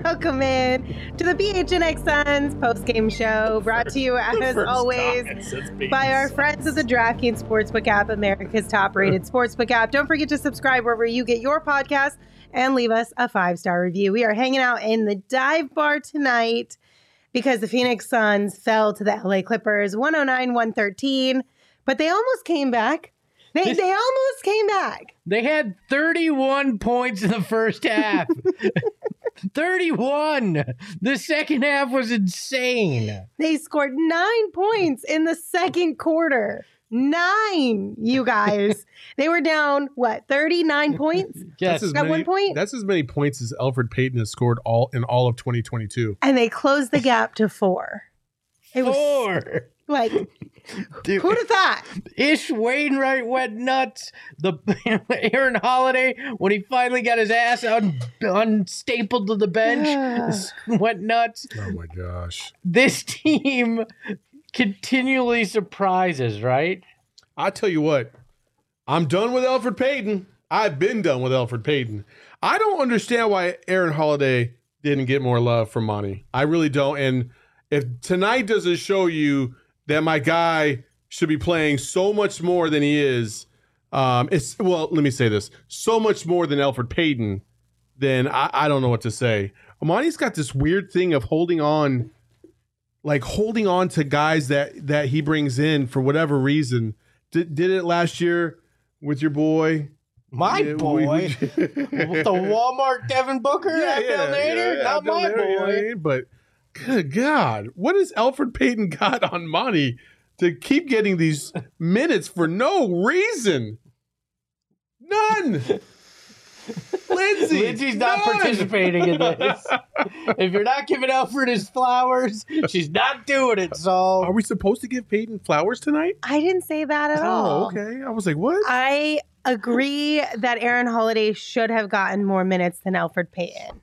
welcome in to the PHNX Suns post-game show, brought to you as always by our friends at the DraftKings Sportsbook app, America's top-rated sportsbook app. Don't forget to subscribe wherever you get your podcast and leave us a 5-star review. We are hanging out in the dive bar tonight because the Phoenix Suns fell to the LA Clippers 109-113, but they almost came back. They almost came back. They had 31 points in the first half. 31. The second half was insane. They scored 9 points in the second quarter. 9, you guys. They were down, 39 points? Yes. At one point? That's as many points as Elfrid Payton has scored all of 2022. And they closed the gap to 4. It was 4. like, Dude, who'd have thought? Ish Wainwright went nuts. Aaron Holiday, when he finally got his ass unstapled to the bench, went nuts. Oh my gosh. This team continually surprises, right? I tell you what, I'm done with Elfrid Payton. I've been done with Elfrid Payton. I don't understand why Aaron Holiday didn't get more love from Monty. I really don't. And if tonight doesn't show you that my guy should be playing so much more than he is, let me say this, so much more than Elfrid Payton, then I don't know what to say. Monty's got this weird thing of holding on to guys that he brings in for whatever reason. Did it last year with your boy? My boy? With the Walmart Devin Booker? Not my boy. But good God, what has Elfrid Payton got on Monty to keep getting these minutes for no reason? None. Lindsay's not participating in this. If you're not giving Elfrid his flowers, she's not doing it, Saul. Are we supposed to give Payton flowers tonight? I didn't say that at all. Oh, okay. I was like, what? I agree that Aaron Holiday should have gotten more minutes than Elfrid Payton.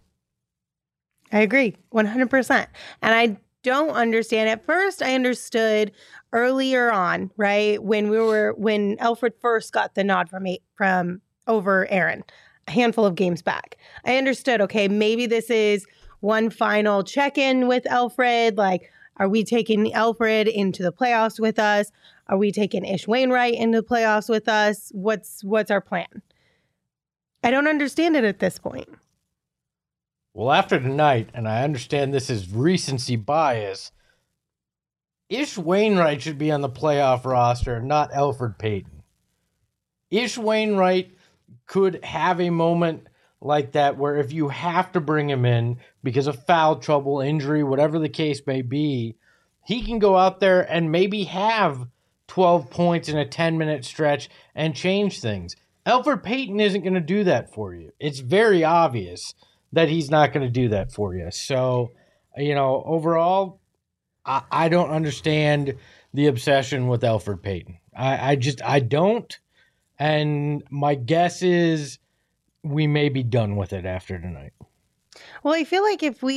I agree 100%. And I don't understand. At first, I understood earlier on, right, when Elfrid first got the nod from over Aaron, a handful of games back. I understood, okay, maybe this is one final check-in with Elfrid. Like, are we taking Elfrid into the playoffs with us? Are we taking Ish Wainwright into the playoffs with us? What's our plan? I don't understand it at this point. Well, after tonight, and I understand this is recency bias, Ish Wainwright should be on the playoff roster, not Elfrid Payton. Ish Wainwright could have a moment like that where if you have to bring him in because of foul trouble, injury, whatever the case may be, he can go out there and maybe have 12 points in a 10-minute stretch and change things. Elfrid Payton isn't going to do that for you. It's very obvious that he's not going to do that for you. So, overall, I don't understand the obsession with Elfrid Payton. I don't. And my guess is we may be done with it after tonight. Well, I feel like if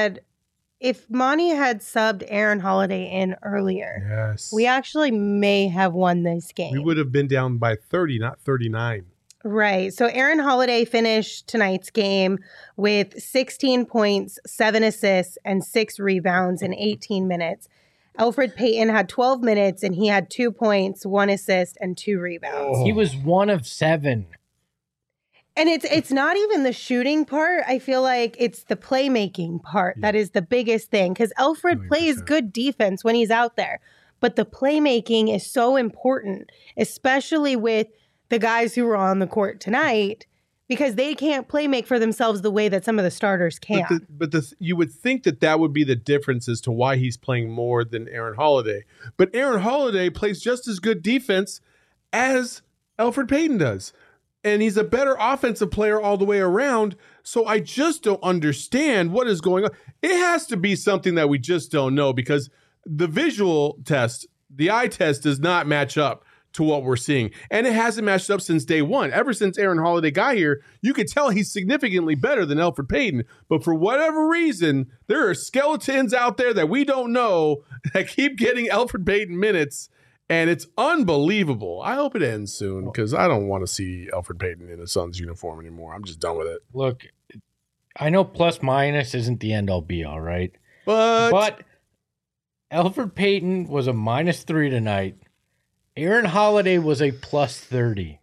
Monty had subbed Aaron Holiday in earlier, yes, we actually may have won this game. We would have been down by 30, not 39. Right. So Aaron Holiday finished tonight's game with 16 points, 7 assists, and 6 rebounds in 18 minutes. Elfrid Payton had 12 minutes, and he had 2 points, 1 assist, and 2 rebounds. He was 1 of 7. And it's not even the shooting part. I feel like it's the playmaking part that is the biggest thing, because Elfrid plays good defense when he's out there. But the playmaking is so important, especially with the guys who were on the court tonight, because they can't play make for themselves the way that some of the starters can. But you would think that would be the difference as to why he's playing more than Aaron Holiday. But Aaron Holiday plays just as good defense as Elfrid Payton does. And he's a better offensive player all the way around. So I just don't understand what is going on. It has to be something that we just don't know, because the visual test, the eye test, does not match up to what we're seeing. And it hasn't matched up since day one. Ever since Aaron Holiday got here, you could tell he's significantly better than Elfrid Payton. But for whatever reason, there are skeletons out there that we don't know that keep getting Elfrid Payton minutes. And it's unbelievable. I hope it ends soon, because I don't want to see Elfrid Payton in a Suns uniform anymore. I'm just done with it. Look, I know plus minus isn't the end all be all, right? But Elfrid Payton was a -3 tonight. Aaron Holiday was a +30.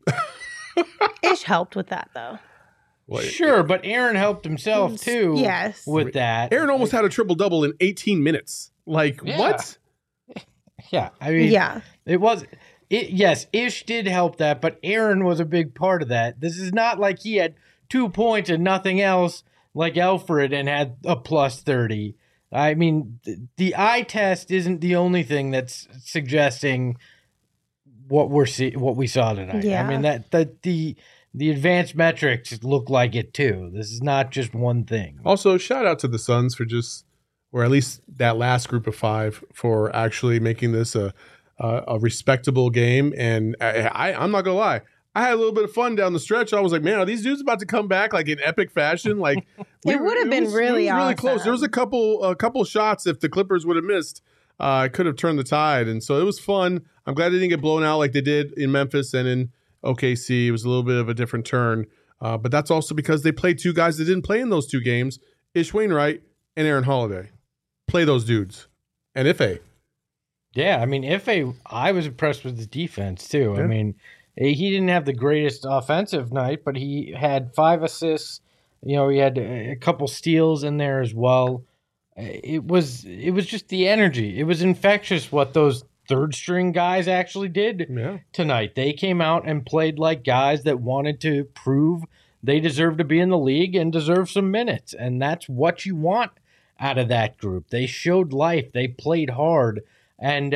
Ish helped with that though. Sure, but Aaron helped himself too. Yes. With that. Aaron almost had a triple-double in 18 minutes. Like, Yeah. what? Yeah, I mean, Yeah. Yes, Ish did help that, but Aaron was a big part of that. This is not like he had 2 points and nothing else like Elfrid and had a +30. I mean, the eye test isn't the only thing that's suggesting what we saw tonight. Yeah. I mean that the advanced metrics look like it too. This is not just one thing. Also, shout out to the Suns for or at least that last group of 5, for actually making this a respectable game. And I'm not gonna lie, I had a little bit of fun down the stretch. I was like, man, are these dudes about to come back like in epic fashion? Like It would have been really really awesome. close. There was a couple shots. If the Clippers would have missed, it could have turned the tide. And so it was fun. I'm glad they didn't get blown out like they did in Memphis and in OKC. It was a little bit of a different turn. But that's also because they played 2 guys that didn't play in those 2 games, Ish Wainwright and Aaron Holiday. Play those dudes. And Ife. Yeah, I mean, I was impressed with his defense too. Yeah. I mean, he didn't have the greatest offensive night, but he had 5 assists. You know, he had a couple steals in there as well. It was just the energy. It was infectious what those third string guys actually did tonight. They came out and played like guys that wanted to prove they deserve to be in the league and deserve some minutes. And that's what you want out of that group. They showed life. They played hard, and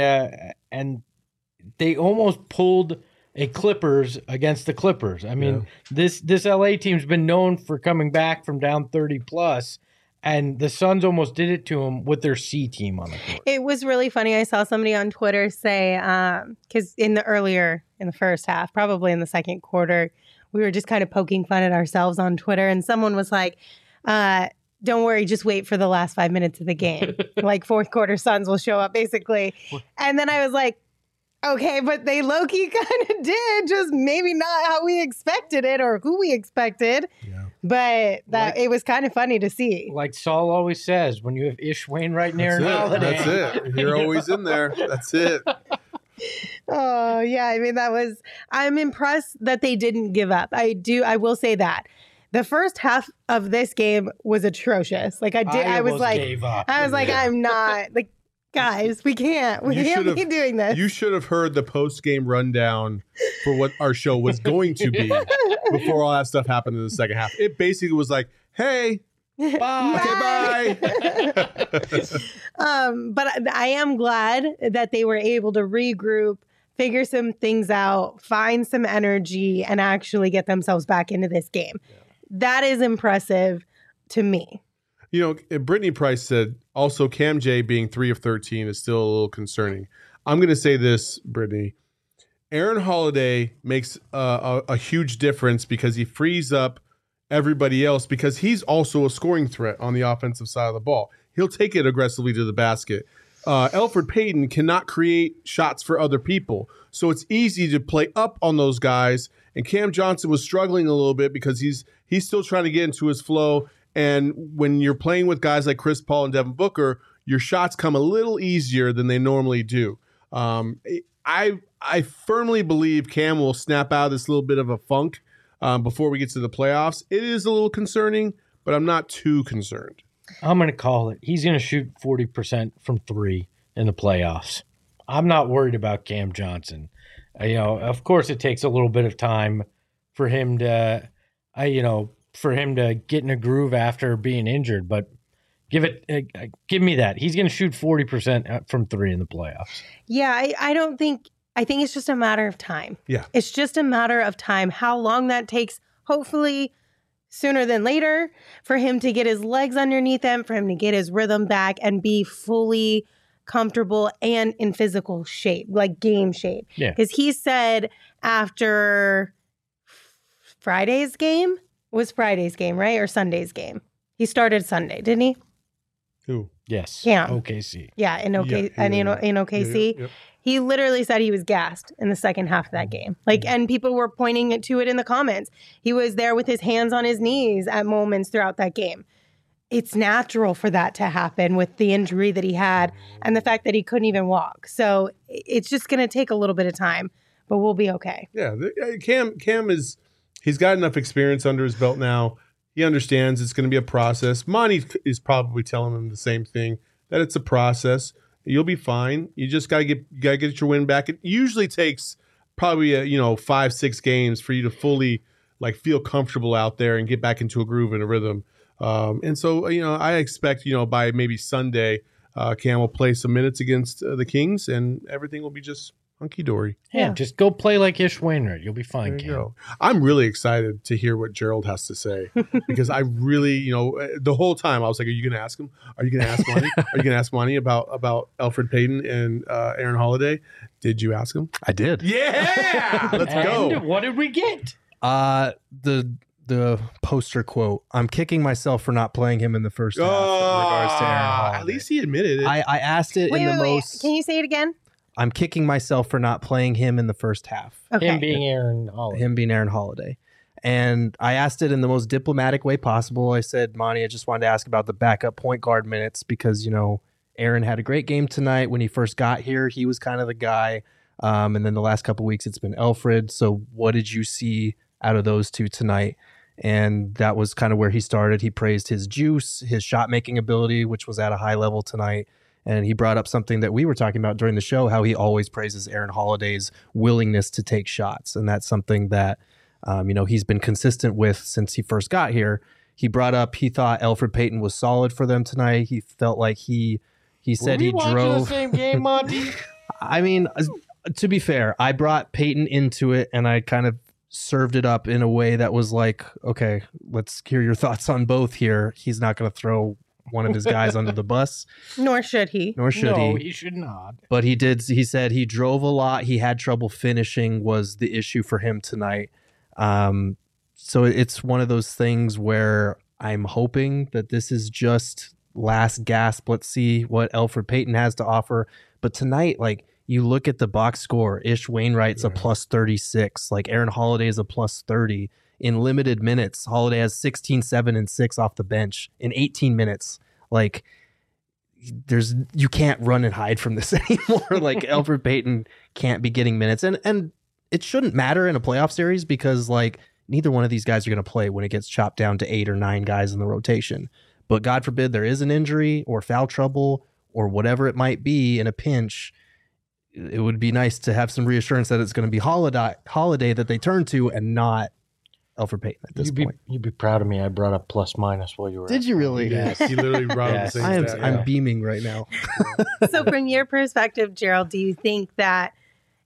they almost pulled a Clippers against the Clippers. I mean, this LA team's been known for coming back from down 30 plus, and the Suns almost did it to them with their C team on the court. It was really funny. I saw somebody on Twitter say, because in the first half, probably in the second quarter, we were just kind of poking fun at ourselves on Twitter, and someone was like, don't worry, just wait for the last 5 minutes of the game. Like fourth quarter Suns will show up basically. And then I was like, okay, but they low-key kind of did, just maybe not how we expected it or who we expected. Yeah. But it was kind of funny to see. Like Saul always says, when you have Ish Wainwright and Aaron Holiday. That's it. You're always in there. That's it. Oh, yeah. I mean, I'm impressed that they didn't give up. I will say that. The first half of this game was atrocious. Like I was like, I'm not like, guys, we can't be doing this. You should have heard the post-game rundown for what our show was going to be before all that stuff happened in the second half. It basically was like, hey, bye. Okay, bye. But I am glad that they were able to regroup, figure some things out, find some energy, and actually get themselves back into this game. Yeah. That is impressive to me. You know, Brittany Price said also Cam J being 3 of 13 is still a little concerning. I'm going to say this, Brittany. Aaron Holiday makes a huge difference because he frees up everybody else because he's also a scoring threat on the offensive side of the ball. He'll take it aggressively to the basket. Elfrid Payton cannot create shots for other people. So it's easy to play up on those guys. And Cam Johnson was struggling a little bit because he's still trying to get into his flow. And when you're playing with guys like Chris Paul and Devin Booker, your shots come a little easier than they normally do. I firmly believe Cam will snap out of this little bit of a funk before we get to the playoffs. It is a little concerning, but I'm not too concerned. I'm going to call it. He's going to shoot 40% from 3 in the playoffs. I'm not worried about Cam Johnson. Of course, it takes a little bit of time for him to, get in a groove after being injured. But give me that. He's going to shoot 40% from 3 in the playoffs. Yeah, I think it's just a matter of time. Yeah, it's just a matter of time. How long that takes? Hopefully, sooner than later, for him to get his legs underneath him, for him to get his rhythm back and be fully comfortable and in physical shape, like game shape. Yeah. Because he said after Friday's game, right? Or Sunday's game? He started Sunday, didn't he? Who? Yes. Cam. OKC. Yeah, in OKC. Yep. He literally said he was gassed in the second half of that game. Like, and people were pointing to it in the comments. He was there with his hands on his knees at moments throughout that game. It's natural for that to happen with the injury that he had and the fact that he couldn't even walk. So it's just going to take a little bit of time, but we'll be okay. Yeah, Cam is, he's got enough experience under his belt now. He understands it's going to be a process. Monty is probably telling him the same thing, that it's a process. You'll be fine. You just got to get your win back. It usually takes probably 5-6 games for you to fully like feel comfortable out there and get back into a groove and a rhythm. And so I expect by maybe Sunday, Cam will play some minutes against the Kings, and everything will be just hunky dory. Yeah, just go play like Ish Wainwright. You'll be fine, There you Cam. go. I'm really excited to hear what Gerald has to say because I really, the whole time I was like, "Are you going to ask him? Are you going to ask Monty? Are you going to ask Monty about Elfrid Payton and Aaron Holiday?" Did you ask him? I did. Yeah, let's go. And what did we get? The poster quote, "I'm kicking myself for not playing him in the first half," in regards to Aaron Holiday. At least he admitted it. I asked it in the most. Can you say it again? I'm kicking myself for not playing him in the first half. Okay. Him being Aaron Holiday. Him being Aaron Holiday. And I asked it in the most diplomatic way possible. I said, Monty, I just wanted to ask about the backup point guard minutes because, Aaron had a great game tonight. When he first got here, he was kind of the guy. And then the last couple of weeks, it's been Elfrid. So what did you see out of those two tonight? And that was kind of where he started. He praised his juice, his shot-making ability, which was at a high level tonight. And he brought up something that we were talking about during the show, how he always praises Aaron Holiday's willingness to take shots. And that's something that, he's been consistent with since he first got here. He brought up he thought Elfrid Payton was solid for them tonight. He felt like he said he drove. The same game, Monty. I mean, to be fair, I brought Payton into it and I kind of served it up in a way that was like, okay, let's hear your thoughts on both here. He's not going to throw one of his guys under the bus. Nor should he. No, he should not. But he did. He said he drove a lot. He had trouble finishing was the issue for him tonight. So it's one of those things where I'm hoping that this is just last gasp. Let's see what Elfrid Payton has to offer. But tonight, like, you look at the box score, Ish Wainwright's a plus 36. Like, Aaron Holiday is a plus 30. In limited minutes, Holiday has 16, 7, and 6 off the bench in 18 minutes. Like, you can't run and hide from this anymore. Like, Elfrid Payton can't be getting minutes. And it shouldn't matter in a playoff series because, like, neither one of these guys are going to play when it gets chopped down to 8 or 9 guys in the rotation. But God forbid there is an injury or foul trouble or whatever it might be in a pinch. It would be nice to have some reassurance that it's going to be Holiday that they turn to and not Elfrid Payton at this point. You'd be proud of me. I brought up plus minus while you were. Did you really? Yes, he literally brought up the same stat. I'm beaming right now. So from your perspective, Gerald, do you think that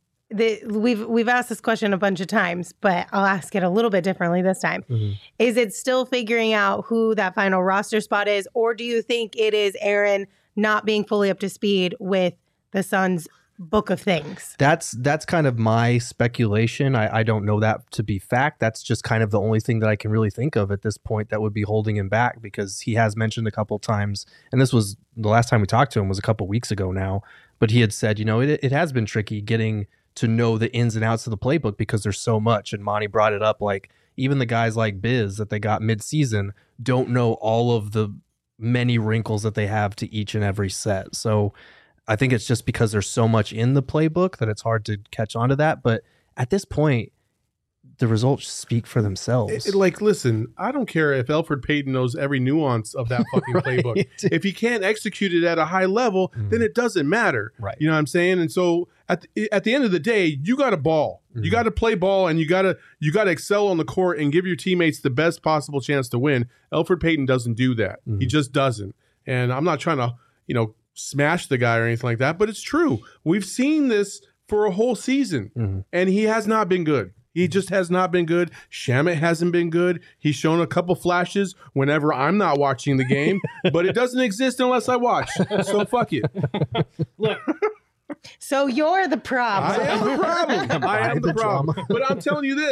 we've asked this question a bunch of times, but I'll ask it a little bit differently this time. Mm-hmm. Is it still figuring out who that final roster spot is, or do you think it is Aaron not being fully up to speed with the Suns' book of things? That's kind of my speculation. I don't know that to be fact. That's just kind of the only thing that I can really think of at this point that would be holding him back, because he has mentioned a couple times, and this was the last time we talked to him was a couple weeks ago now, but he had said, it has been tricky getting to know the ins and outs of the playbook because there's so much. And Monty brought it up, like even the guys like Biz that they got mid-season don't know all of the many wrinkles that they have to each and every set. So I think it's just because there's so much in the playbook that it's hard to catch on to that. But at this point, the results speak for themselves. Listen, I don't care if Elfrid Payton knows every nuance of that fucking playbook. If he can't execute it at a high level, then it doesn't matter. Right. You know what I'm saying? And so at the end of the day, you got to ball. Mm-hmm. You got to play ball, and you got to excel on the court and give your teammates the best possible chance to win. Elfrid Payton doesn't do that. Mm-hmm. He just doesn't. And I'm not trying to, smash the guy or anything like that, but it's true. We've seen this for a whole season, and he has not been good. He just has not been good. Shamet hasn't been good. He's shown a couple flashes whenever I'm not watching the game, but it doesn't exist unless I watch. So fuck it. Look. So you're the problem. I am the problem. I am the problem. But I'm telling you this,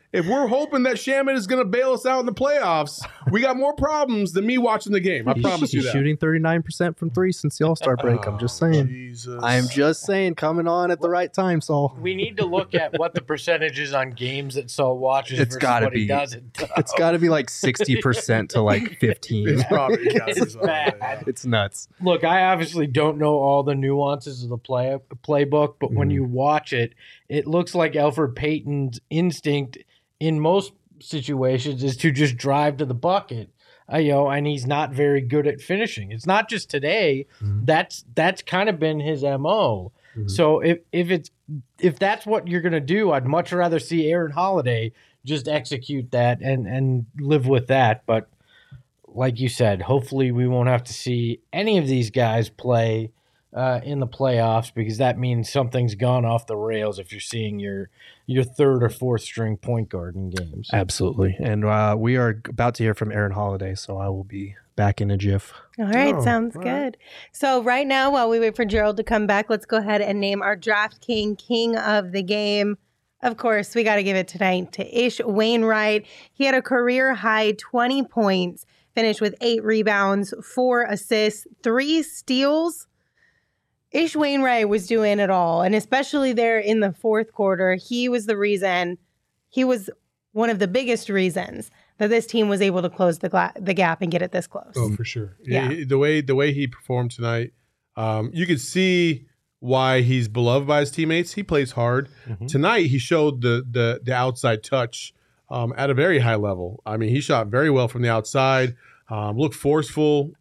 if we're hoping that Shaman is going to bail us out in the playoffs, we got more problems than me watching the game. I promise you He's that. shooting 39% from three since the All-Star break. I'm just saying. Jesus. I'm just saying, coming on at the right time, Saul. We need to look at what the percentage is on games that Saul watches It's versus gotta what he be. doesn't. It's got to be like 60% to like 15. It's probably It's bad. It's nuts. Look, I obviously don't know all the nuances of the playbook, but when you watch it, it looks like Elfrid Payton's instinct in most situations is to just drive to the bucket. And he's not very good at finishing. It's not just today. That's kind of been his MO. So if that's what you're gonna do, I'd much rather see Aaron Holiday just execute that and live with that. But like you said, hopefully we won't have to see any of these guys play in the playoffs, because that means something's gone off the rails if you're seeing your third or fourth string point guard in games. Absolutely. And we are about to hear from Aaron Holiday, so I will be back in a jiff. All right, Oh, sounds all good. right. So right now, while we wait for Gerald to come back, let's go ahead and name our DraftKings King of the Game. Of course, we got to give it tonight to Ish Wainwright. He had a career high 20 points, finished with 8 rebounds, 4 assists, 3 steals. Ish Wainwright was doing it all, and especially there in the fourth quarter, he was one of the biggest reasons that this team was able to close the gap and get it this close. Oh, for sure. Yeah. The way he performed tonight, you could see why he's beloved by his teammates. He plays hard. Tonight, he showed the outside touch at a very high level. I mean, he shot very well from the outside, looked forceful,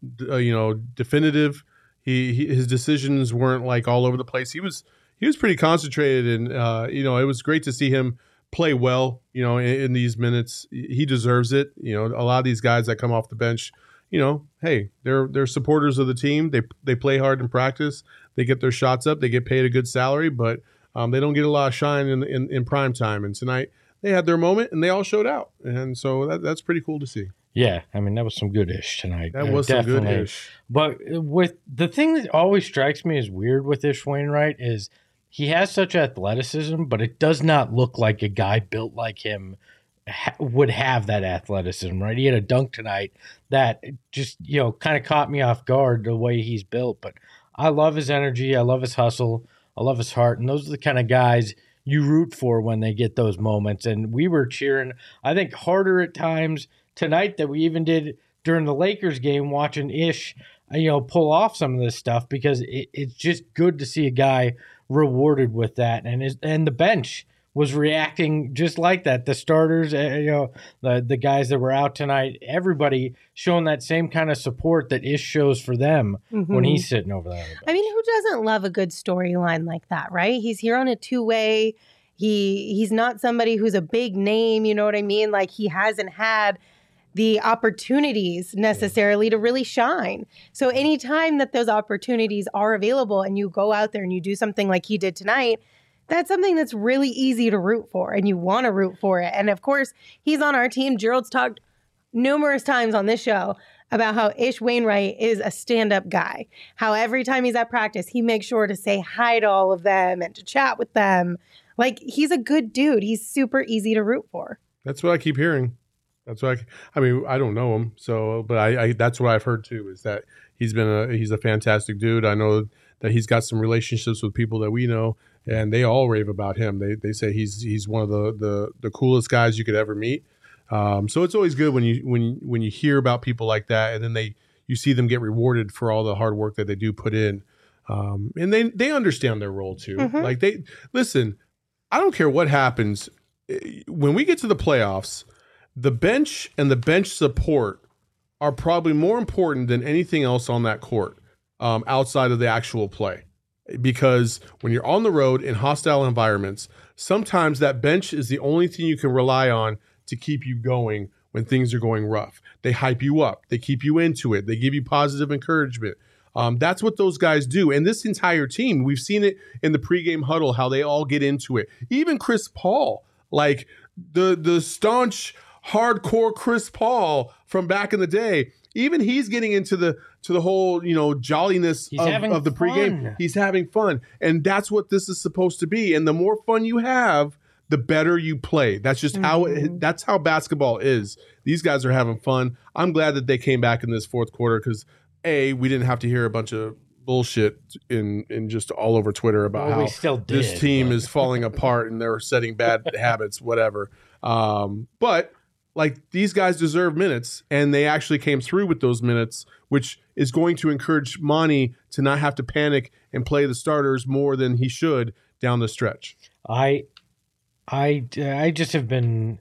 definitive. His decisions weren't like all over the place. He was pretty concentrated, and it was great to see him play well. In these minutes, he deserves it. A lot of these guys that come off the bench, hey, they're supporters of the team. They play hard in practice. They get their shots up. They get paid a good salary, but they don't get a lot of shine in prime time. And tonight they had their moment, and they all showed out. And so that's pretty cool to see. Yeah, I mean, that was some good ish tonight. That was some good ish. But with the thing that always strikes me as weird with Ish Wainwright is he has such athleticism, but it does not look like a guy built like him would have that athleticism, right? He had a dunk tonight that just, kind of caught me off guard the way he's built. But I love his energy. I love his hustle. I love his heart. And those are the kind of guys you root for when they get those moments. And we were cheering, I think, harder at times tonight than we even did during the Lakers game, watching Ish, pull off some of this stuff, because it's just good to see a guy rewarded with that. And the bench was reacting just like that. The starters, the guys that were out tonight, everybody showing that same kind of support that Ish shows for them when he's sitting over there. I mean, who doesn't love a good storyline like that, right? He's here on a two-way. He's not somebody who's a big name, you know what I mean? Like, he hasn't had the opportunities necessarily to really shine. So anytime that those opportunities are available and you go out there and you do something like he did tonight, that's something that's really easy to root for, and you want to root for it. And of course, he's on our team. Gerald's talked numerous times on this show about how Ish Wainwright is a stand-up guy, how every time he's at practice, he makes sure to say hi to all of them and to chat with them. Like, he's a good dude. He's super easy to root for. That's what I keep hearing. That's what I mean, I don't know him, but I that's what I've heard too, is that he's a fantastic dude. I know that he's got some relationships with people that we know, and they all rave about him. They say he's one of the coolest guys you could ever meet. So it's always good when you hear about people like that, and then you see them get rewarded for all the hard work that they do put in, and they understand their role too. Like, listen. I don't care what happens when we get to the playoffs. The bench and the bench support are probably more important than anything else on that court, outside of the actual play. Because when you're on the road in hostile environments, sometimes that bench is the only thing you can rely on to keep you going when things are going rough. They hype you up. They keep you into it. They give you positive encouragement. That's what those guys do. And this entire team, we've seen it in the pregame huddle, how they all get into it. Even Chris Paul, like the staunch, hardcore Chris Paul from back in the day, even he's getting into the whole, jolliness of the pregame. He's having fun. And that's what this is supposed to be. And the more fun you have, the better you play. That's just that's how basketball is. These guys are having fun. I'm glad that they came back in this fourth quarter because we didn't have to hear a bunch of bullshit in just all over Twitter about we still did, this team is falling apart and they're setting bad habits, whatever. But like these guys deserve minutes, and they actually came through with those minutes, which is going to encourage Monty to not have to panic and play the starters more than he should down the stretch. I just have been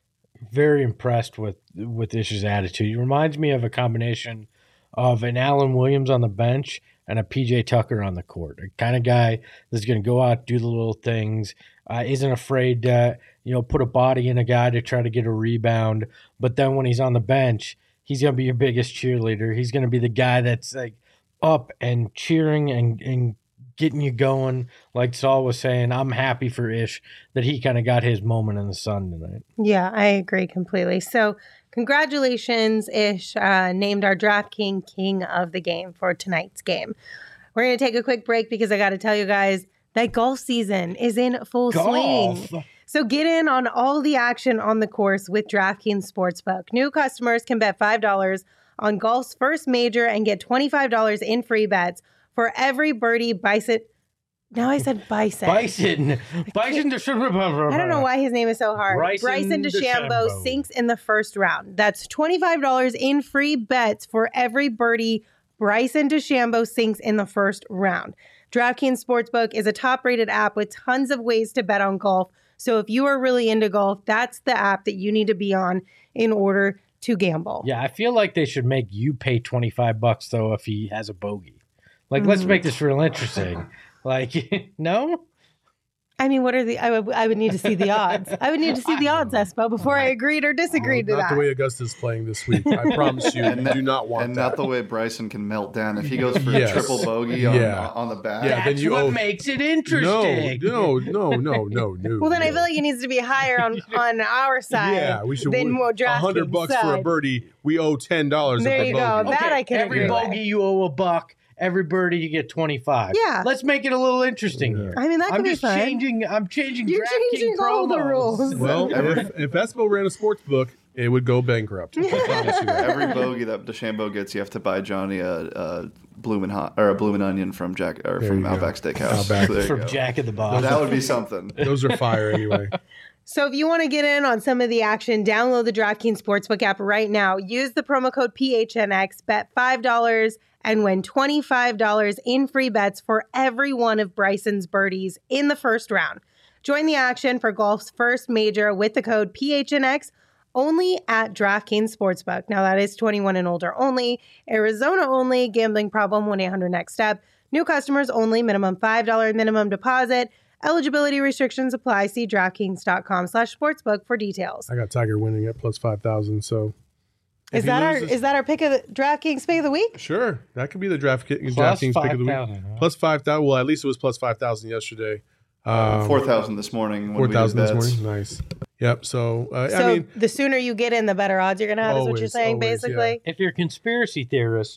very impressed with Ish's attitude. He reminds me of a combination of an Allen Williams on the bench and a PJ Tucker on the court. A kind of guy that's going to go out, do the little things, isn't afraid to put a body in a guy to try to get a rebound. But then when he's on the bench, he's going to be your biggest cheerleader. He's going to be the guy that's like up and cheering and getting you going. Like Saul was saying, I'm happy for Ish that he kind of got his moment in the sun tonight. Yeah, I agree completely. So congratulations, Ish, named our DraftKings King of the Game for tonight's game. We're going to take a quick break because I got to tell you guys that golf season is in full swing. So get in on all the action on the course with DraftKings Sportsbook. New customers can bet $5 on golf's first major and get $25 in free bets for every birdie bison. Now I said bison. Bison DeChambeau. I don't know why his name is so hard. Bryson DeChambeau sinks in the first round. That's $25 in free bets for every birdie Bryson DeChambeau sinks in the first round. DraftKings Sportsbook is a top-rated app with tons of ways to bet on golf. So if you are really into golf, that's the app that you need to be on in order to gamble. Yeah, I feel like they should make you pay $25 though if he has a bogey. Like, let's make this real interesting. Like, no? I mean, what are the? I would need to see the odds. I would need to see the odds, Espo, before I agreed or disagreed to that. Not the way Augusta's playing this week. I promise you, you do not want and that. not the way Bryson can melt down if he goes for a triple bogey on the back. Yeah, That's what makes it interesting. No. Well, then I feel like it needs to be higher on our side. Yeah, we should. Than more DraftKings $100 side. for a birdie. We owe $10. There you go. Bogey. That I can every agree with. bogey you owe $1. Every birdie you get 25. Yeah. Let's make it a little interesting here. I mean, that could be fun. I'm changing You're changing all the rules. Well, if Espo ran a sports book, it would go bankrupt. I promise you that. Every bogey that DeChambeau gets, you have to buy Johnny a bloomin' onion from Outback Steakhouse. Outback. So From Jack in the Box. that would be something. Those are fire anyway. So if you want to get in on some of the action, download the DraftKings Sportsbook app right now. Use the promo code PHNX, bet $5, and win $25 in free bets for every one of Bryson's birdies in the first round. Join the action for golf's first major with the code PHNX only at DraftKings Sportsbook. Now that is 21 and older only, Arizona only, gambling problem, 1-800-NEXT-STEP. New customers only, minimum $5 minimum deposit. Eligibility restrictions apply. See DraftKings.com/sportsbook for details. I got Tiger winning at plus 5,000. So Is that our pick of the DraftKings pick of the week? Sure, that could be the DraftKings pick of the week. Huh? Plus 5,000. Well, at least it was plus 5,000 yesterday. 4,000 this morning. 4,000 this morning. Nice. Yep. So So I mean, the sooner you get in, the better odds you're going to have, is what you're Always, saying, always, basically? If you're a conspiracy theorist,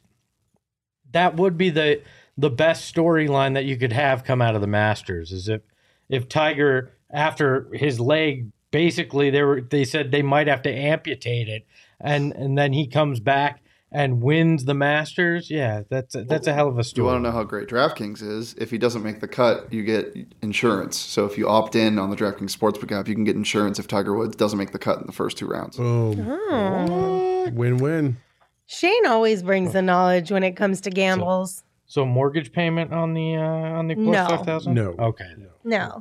that would be the best storyline that you could have come out of the Masters. Is if Tiger, after his leg, basically they said they might have to amputate it, and then he comes back and wins the Masters. Yeah, that's a hell of a You story. want to know how great DraftKings is? If he doesn't make the cut, you get insurance. So if you opt in on the DraftKings Sportsbook app, you can get insurance if Tiger Woods doesn't make the cut in the first 2 rounds. boom. Oh. Win-win. Shane always brings the knowledge when it comes to gambles. So mortgage payment on the plus No. 5,000? No. Okay. No.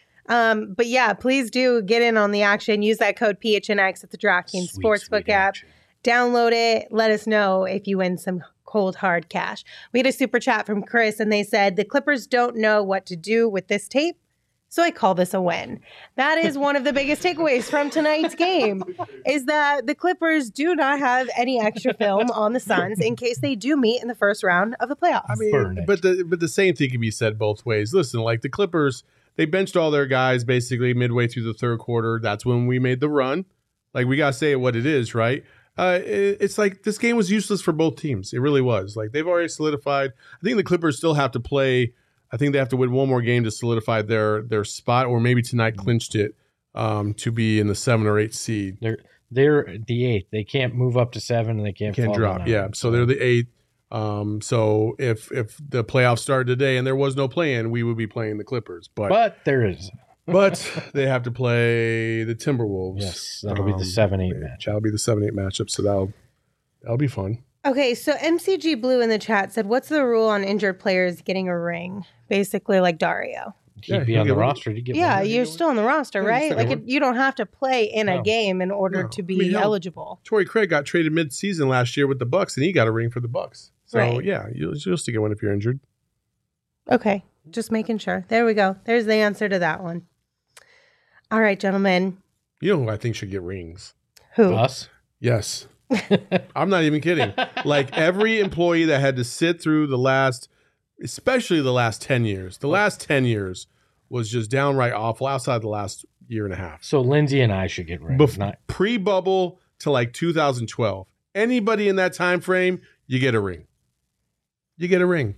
But yeah, please do get in on the action. Use that code PHNX at the DraftKings Sweet, Sportsbook sweet app. action. Download it. Let us know if you win some cold, hard cash. We had a super chat from Chris, and they said, the Clippers don't know what to do with this tape, so I call this a win. That is one of the biggest takeaways from tonight's game, is that the Clippers do not have any extra film on the Suns in case they do meet in the first round of the playoffs. I Burn mean, it. but the same thing can be said both ways. Listen, like the Clippers, they benched all their guys basically midway through the third quarter. That's when we made the run. Like, we got to say it what it is, right? It's like this game was useless for both teams. It really was. Like, they've already solidified. I think the Clippers still have to play. I think they have to win one more game to solidify their spot, or maybe tonight clinched it. to be in the 7 or 8 seed. They're the 8th. They can't move up to 7, and they can't fall Drop. down. Yeah, so they're the 8th. So if the playoffs started today and there was no play-in, we would be playing the Clippers. But there is. But they have to play the Timberwolves. Yes, that'll be the 7-8 match. That'll be the 7-8 matchup. So that'll be fun. Okay, so MCG Blue in the chat said, what's the rule on injured players getting a ring? Basically like Dario. He'd be on the roster. You're still on the roster, right? Like you don't have to play in a No. game in order to be eligible. Torrey Craig got traded mid-season last year with the Bucks, and he got a ring for the Bucks. So Right. yeah, you'll still get one if you're injured. Okay, just making sure. There we go. There's the answer to that one. All right, gentlemen. You know who I think should get rings? Who? Us? Yes. I'm not even kidding. Like every employee that had to sit through especially the last 10 years. The last 10 years was just downright awful outside the last year and a half. So Lindsay and I should get rings. Pre-bubble to like 2012. Anybody in that time frame, you get a ring. You get a ring.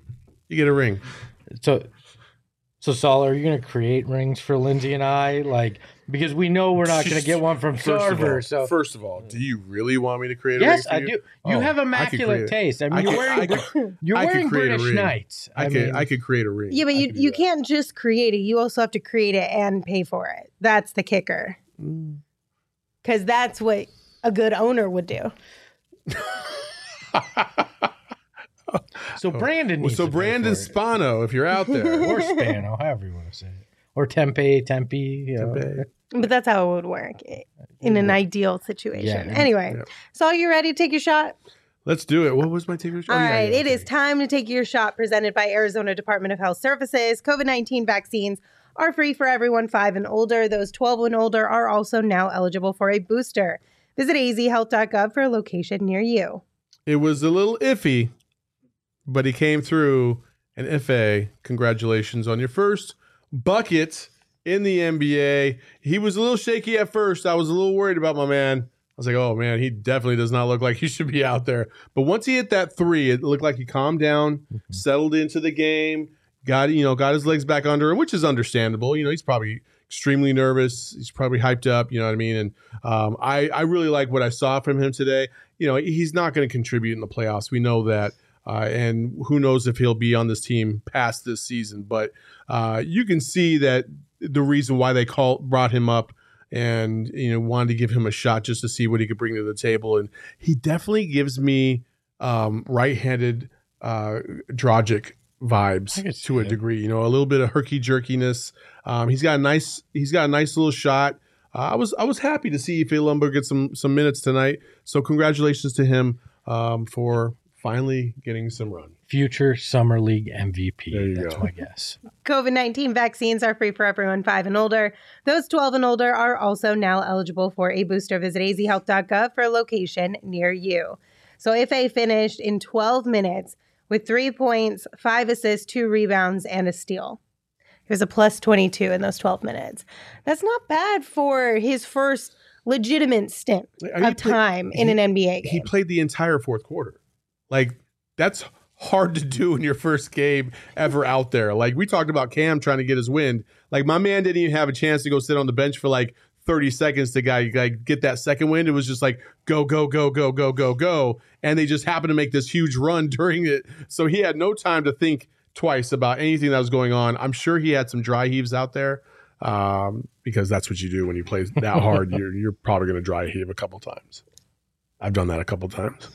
So Saul, are you going to create rings for Lindsay and I? Like, because we know we're not going to get one from Sarver. First of all, do you really want me to create a ring? Yes, for I you? do. You have immaculate taste. I mean, you're wearing British Knights. I could create a ring. Yeah, but you can't just create it. You also have to create it and pay for it. That's the kicker. Because that's what a good owner would do. So Brandon needs to pay Brandon for it. Spano, if you're out there. Or Spano, however you want to say it. Or Tempe. You know. But that's how it would work in an ideal situation. Anyway, so are you ready to take your shot? Let's do it. What was my take? All right, it is time to take your shot presented by Arizona Department of Health Services. COVID-19 vaccines are free for everyone 5 and older. Those 12 and older are also now eligible for a booster. Visit azhealth.gov for a location near you. It was a little iffy, but he came through. And Ife, congratulations on your first bucket in the NBA. He was a little shaky at first. I was a little worried about my man. I was like, oh man, he definitely does not look like he should be out there. But once he hit that 3, it looked like he calmed down, settled into the game, got his legs back under him, which is understandable. He's probably extremely nervous. He's probably hyped up. You know what I mean? And I really like what I saw from him today. He's not going to contribute in the playoffs. We know that. And who knows if he'll be on this team past this season. But you can see that the reason why they brought him up and wanted to give him a shot just to see what he could bring to the table. And he definitely gives me right-handed Dragic vibes to a degree. A little bit of herky jerkiness. He's got a nice little shot. I was happy to see Ife Lumbo get some minutes tonight. So congratulations to him for finally getting some run. Future Summer League MVP. There you That's go. my guess. COVID-19 vaccines are free for everyone 5 and older. Those 12 and older are also now eligible for a booster. Visit azhealth.gov for a location near you. So Ife finished in 12 minutes with 3 points, 5 assists, 2 rebounds, and a steal. He was a plus 22 in those 12 minutes. That's not bad for his first legitimate stint of time in an NBA game. He played the entire fourth quarter. Like, that's hard to do in your first game ever out there. Like, we talked about Cam trying to get his wind. Like, my man didn't even have a chance to go sit on the bench for like 30 seconds to get that second wind. It was just like, go, go, go, go, go, go, go. And they just happened to make this huge run during it. So he had no time to think twice about anything that was going on. I'm sure he had some dry heaves out there because that's what you do when you play that hard. You're probably going to dry heave a couple times. I've done that a couple times.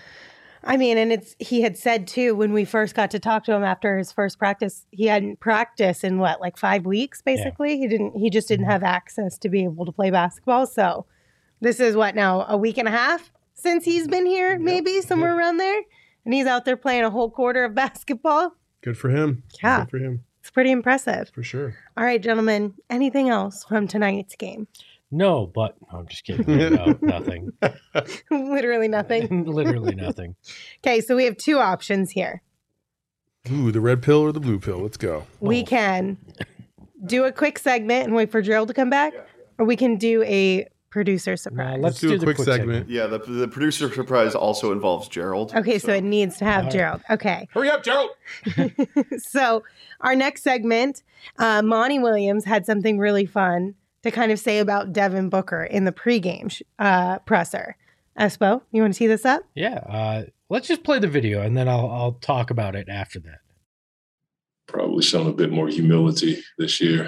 I mean, and he had said too, when we first got to talk to him after his first practice, he hadn't practiced in 5 weeks, basically. Yeah. He just didn't have access to be able to play basketball. So this is now, a week and a half since he's been here, maybe somewhere around there. And he's out there playing a whole quarter of basketball. Good for him. Yeah. Good for him. It's pretty impressive. For sure. All right, gentlemen, anything else from tonight's game? No, but I'm just kidding. No, nothing. Literally nothing. Literally nothing. Okay, so we have 2 options here. Ooh, the red pill or the blue pill? Let's go. We can do a quick segment and wait for Gerald to come back, or we can do a producer surprise. Let's do a the quick segment. Yeah, the producer surprise also involves Gerald. Okay, so it needs to have Gerald. Okay. Hurry up, Gerald. So our next segment, Monty Williams had something really fun to kind of say about Devin Booker in the pregame presser. Espo, you want to tee this up? Yeah. Let's just play the video, and then I'll talk about it after that. Probably shown a bit more humility this year.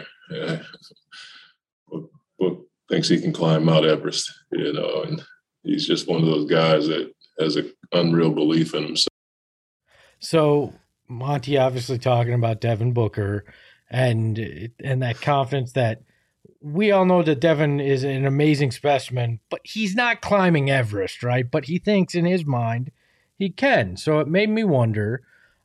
Book thinks he can climb Mount Everest, and he's just one of those guys that has an unreal belief in himself. So Monty obviously talking about Devin Booker and that confidence that we all know that Devin is an amazing specimen, but he's not climbing Everest, right? But he thinks in his mind he can. So it made me wonder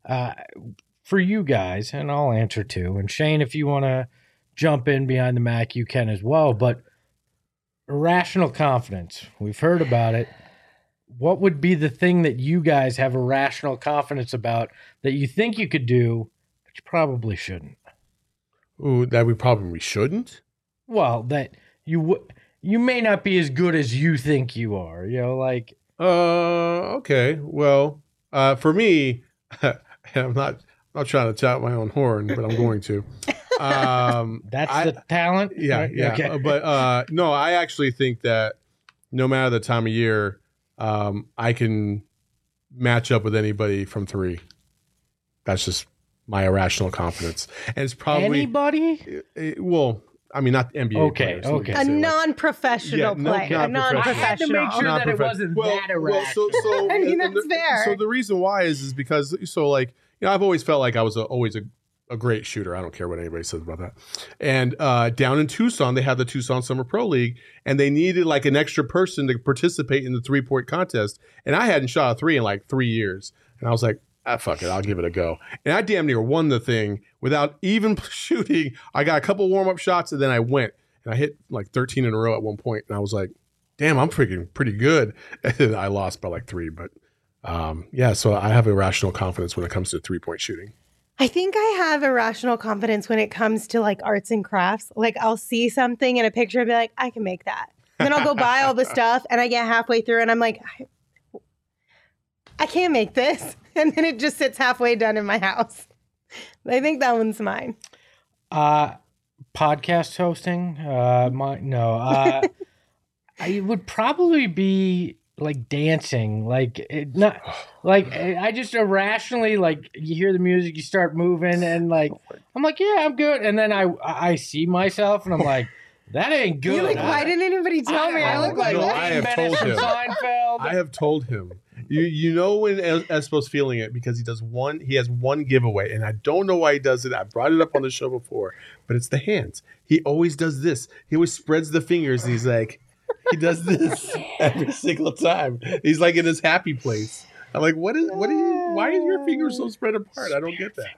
for you guys, and I'll answer too. And Shane, if you want to jump in behind the Mac, you can as well. But irrational confidence, we've heard about it. What would be the thing that you guys have irrational confidence about that you think you could do, but you probably shouldn't? Ooh, that we probably shouldn't? Well, that you may not be as good as you think you are, like. Okay. Well, for me, I'm not trying to tout my own horn, but I'm going to. That's the talent? Yeah, right? yeah. Okay. But no, I actually think that no matter the time of year, I can match up with anybody from 3. That's just my irrational confidence. And it's probably anybody? Well, I mean, not NBA Okay, players. okay. A non-professional player. A I non-professional. had to make sure that it wasn't that irrational. I mean, that's fair. So the reason why is because I've always felt like I was always a great shooter. I don't care what anybody says about that. And down in Tucson, they had the Tucson Summer Pro League, and they needed like an extra person to participate in the 3-point contest. And I hadn't shot a 3 in like 3 years, and I was like, fuck it, I'll give it a go. And I damn near won the thing without even shooting. I got a couple warm-up shots, and then I went. And I hit like 13 in a row at one point, and I was like, damn, I'm freaking pretty good. And I lost by like 3. But so I have irrational confidence when it comes to 3-point shooting. I think I have irrational confidence when it comes to like arts and crafts. Like I'll see something in a picture and be like, I can make that. And then I'll go buy all the stuff, and I get halfway through and I'm like, I can't make this. And then it just sits halfway done in my house. I think that one's mine. Podcast hosting? I would probably be like dancing, I just irrationally, like, you hear the music, you start moving, and like I'm like, yeah, I'm good, and then I see myself and I'm like, that ain't good. You're like, why didn't anybody tell me? I look like No, that. I have told him. Seinfeld. I have told him. You know when Espo's feeling it because he has one giveaway, and I don't know why he does it. I brought it up on the show before, but it's the hands. He always does this. He always spreads the fingers, and he does this every single time. He's like in his happy place. I'm like, why is your fingers so spread apart? I don't get that.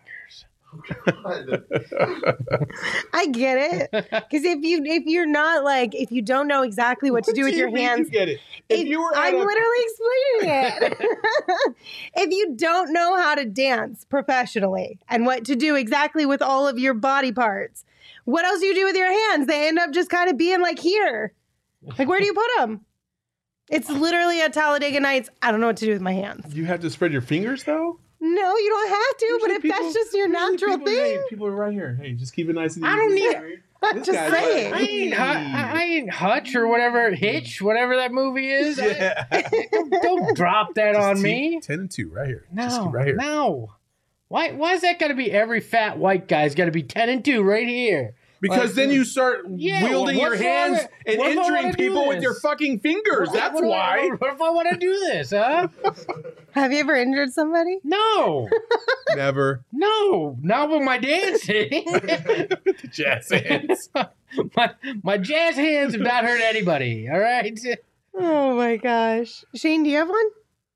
I get it. Because if you're not like, if you don't know exactly what to do with your hands. You get it. I'm literally explaining it. If you don't know how to dance professionally and what to do exactly with all of your body parts, what else do you do with your hands? They end up just kind of being like here. Like, where do you put them? It's literally at Talladega Nights. I don't know what to do with my hands. You have to spread your fingers though? No, you don't have to. But if that's just your natural thing. People are right here. Hey, just keep it nice and easy. I don't need I'm just saying. I ain't Hutch or whatever, Hitch, whatever that movie is. Yeah. Don't drop that on me. 10 and 2 right here. No, Just keep right here. no. Why is that got to be every fat white guy's got to be 10 and 2 right here? Because then you start wielding your hands and injuring people with your fucking fingers. That's why. What if I want to do this, huh? Have you ever injured somebody? No. Never. No. Not with my dancing. The jazz hands. my jazz hands have not hurt anybody, all right? Oh, my gosh. Shane, do you have one?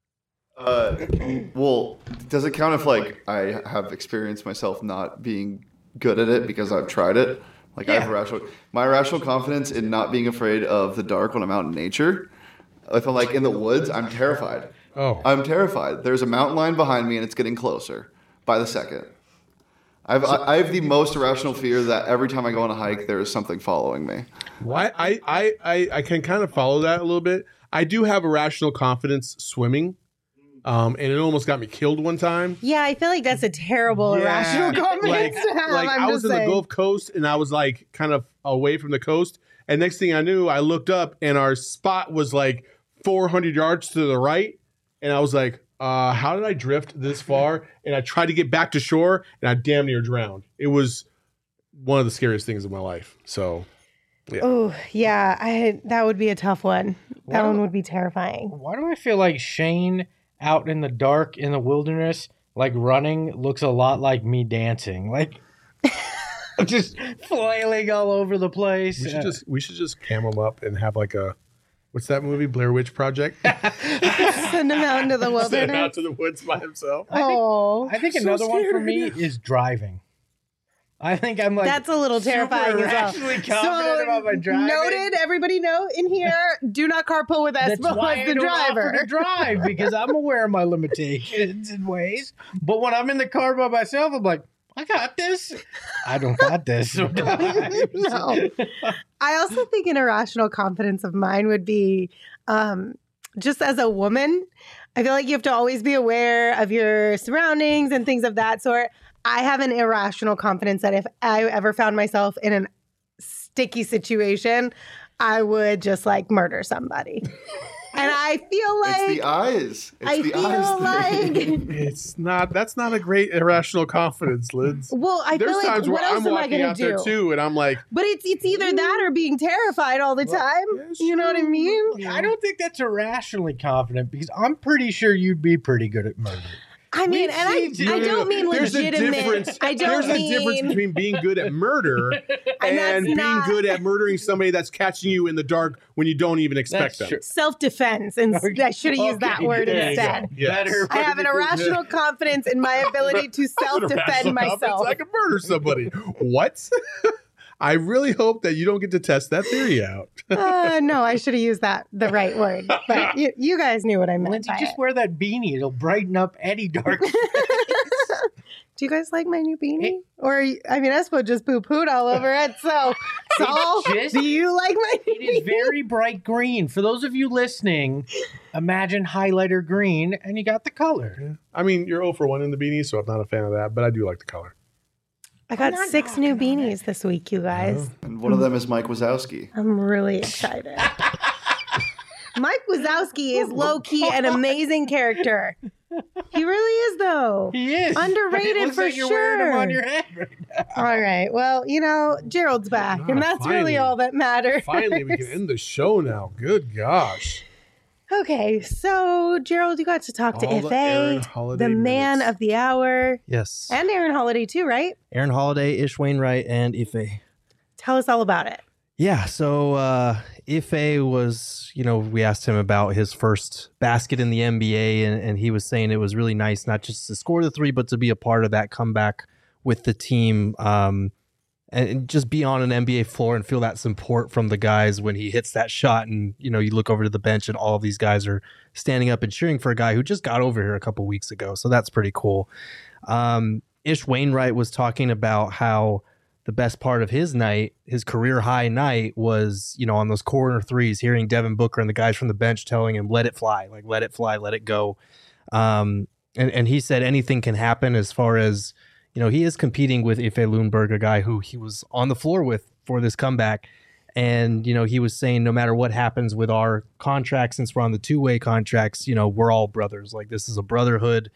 Well, does it count if like I have experienced myself not being good at it because I've tried it? Like I have my irrational confidence in not being afraid of the dark when I'm out in nature. If I'm like in the woods, I'm terrified. Oh. I'm terrified. There's a mountain lion behind me and it's getting closer by the second. I have the most irrational fear that every time I go on a hike, there is something following me. I can kind of follow that a little bit. I do have irrational confidence swimming. And it almost got me killed one time. Yeah, I feel like that's a terrible irrational confidence to have. Like I was in the Gulf Coast and I was like kind of away from the coast And next thing I knew, I looked up and our spot was like 400 yards to the right. And I was like, how did I drift this far? And I tried to get back to shore and I damn near drowned. It was one of the scariest things in my life. So, yeah. Oh, yeah. That would be a tough one. That one would be terrifying. Why do I feel like Shane out in the dark in the wilderness, like running, looks a lot like me dancing? Like, just flailing all over the place. We should just cam him up and have like a, what's that movie? Blair Witch Project? Send him out into the wilderness. Send him out to the woods by himself. I think so another one for scared. me is driving. I think I'm like that's a little terrifying as well. irrationally confident about my driving. Noted, everybody know in here, do not carpool with That's Espo why as I the don't driver. offer to drive, because I'm aware of my limitations and ways. But when I'm in the car by myself, I'm like, I got this. I don't got this sometimes. No. I also think an irrational confidence of mine would be just as a woman, I feel like you have to always be aware of your surroundings and things of that sort. I have an irrational confidence that if I ever found myself in a sticky situation, I would just like murder somebody. And I feel like It's the eyes. It's I the feel eyes thing. It's not. That's not a great irrational confidence, Liz. well, I There's feel like times what where else I'm am I walking going out to there do? too, and I'm like, But it's either that or being terrified all the time. yes, You know what I mean? I don't think that's irrationally confident, because I'm pretty sure you'd be pretty good at murder. I mean, and I don't mean there's legitimate. A difference. I don't There's mean a difference between being good at murder and that's being not- good at murdering somebody that's catching you in the dark when you don't even expect That's them. true. self-defense, and I should have used that Okay, word there you instead. go. Yes. Better. I have an irrational confidence in my ability to self-defend Irrational myself. confidence, I can murder somebody. What? I really hope that you don't get to test that theory out. No, I should have used the right word. But you guys knew what I meant Lindsay, by just it. wear that beanie. It'll brighten up any dark. Do you guys like my new beanie? Or, I mean, Espo just poo-pooed all over it. So, Saul, just- do you like my new It is very bright green. For those of you listening, imagine highlighter green, and you got the color. I mean, you're 0 for 1 in the beanie, so I'm not a fan of that, but I do like the color. I got 6 new beanies this week, you guys. And one of them is Mike Wazowski. I'm really excited. Mike Wazowski is low-key an amazing character. He really is, though. He is Underrated It looks for like you're wearing him sure. on your head right now. All right. Well, Gerald's back, and that's finally. really all that matters. Finally, we can end the show now. Good gosh. Okay, so Gerald, you got to talk to All the Aaron Ife, Holiday the man minutes. of the hour, Yes. and Aaron Holiday too, right? Aaron Holiday, Ish Wainwright, and Ife. Tell us all about it. Yeah, so Ife was, we asked him about his first basket in the NBA, and he was saying it was really nice not just to score the three, but to be a part of that comeback with the team, and just be on an NBA floor and feel that support from the guys when he hits that shot. And, you look over to the bench and all of these guys are standing up and cheering for a guy who just got over here a couple weeks ago. So that's pretty cool. Ish Wainwright was talking about how the best part of his night, his career high night, was, on those corner threes, hearing Devin Booker and the guys from the bench telling him, let it fly, let it fly, let it go. And he said anything can happen as far as, he is competing with Ife Lundberg, a guy who he was on the floor with for this comeback. And, he was saying no matter what happens with our contract, since we're on the two-way contracts, we're all brothers. Like, this is a brotherhood.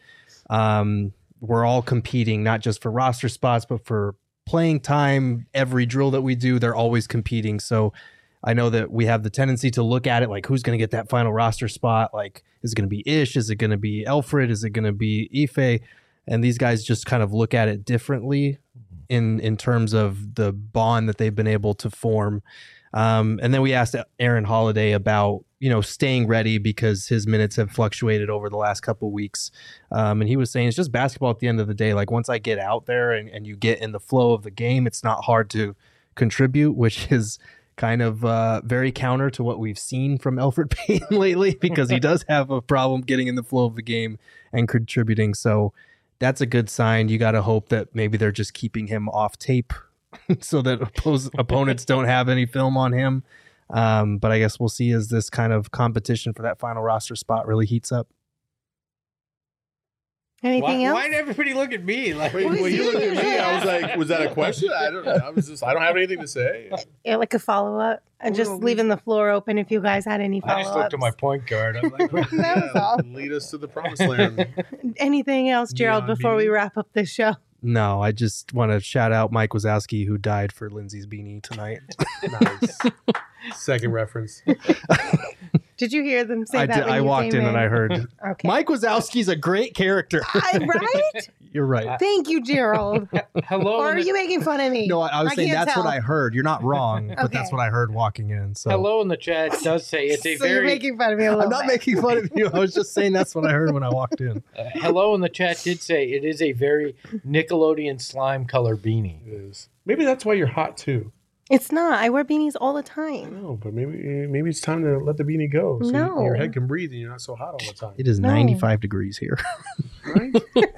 We're all competing, not just for roster spots, but for playing time. Every drill that we do, they're always competing. So I know that we have the tendency to look at it like, who's going to get that final roster spot? Like, is it going to be Ish? Is it going to be Alfred? Is it going to be Ife? And these guys just kind of look at it differently in terms of the bond that they've been able to form. And then we asked Aaron Holiday about, staying ready because his minutes have fluctuated over the last couple of weeks. And he was saying it's just basketball at the end of the day. Like, once I get out there and you get in the flow of the game, it's not hard to contribute, which is kind of very counter to what we've seen from Elfrid Payton lately, because he does have a problem getting in the flow of the game and contributing. So that's a good sign. You got to hope that maybe they're just keeping him off tape so that opponents don't have any film on him. But I guess we'll see as this kind of competition for that final roster spot really heats up. Anything else? Why did everybody look at me? Like, When you looked at me, I was like, was that a question? I don't know. I don't have anything to say. Yeah, like a follow-up. And just leaving the floor open if you guys had any I follow-ups. just looked at my point guard. I'm like, That was all. Lead us to the promised land. Anything else, Gerald, Neon before we beanie. wrap up this show? No, I just want to shout out Mike Wazowski, who died for Lindsay's beanie tonight. Nice. Second reference. Did you hear them say I that? did, when I you walked came in and I heard Okay. Mike Wazowski's a great character. Right? You're right. Thank you, Gerald. hello. Or are in the- you making fun of me? No, I was saying can't that's tell. what I heard. You're not wrong, but that's Okay. what I heard walking in. So Hello in the chat does say it's a So you're very making fun of me a little I'm not bit. making fun of you. I was just saying that's what I heard when I walked in. hello in the chat did say it is a very Nickelodeon slime color beanie. It is. Maybe that's why you're hot too. It's not. I wear beanies all the time. No, but maybe it's time to let the beanie go. So No. your head can breathe and you're not so hot all the time. It is No. 95 degrees here. Right?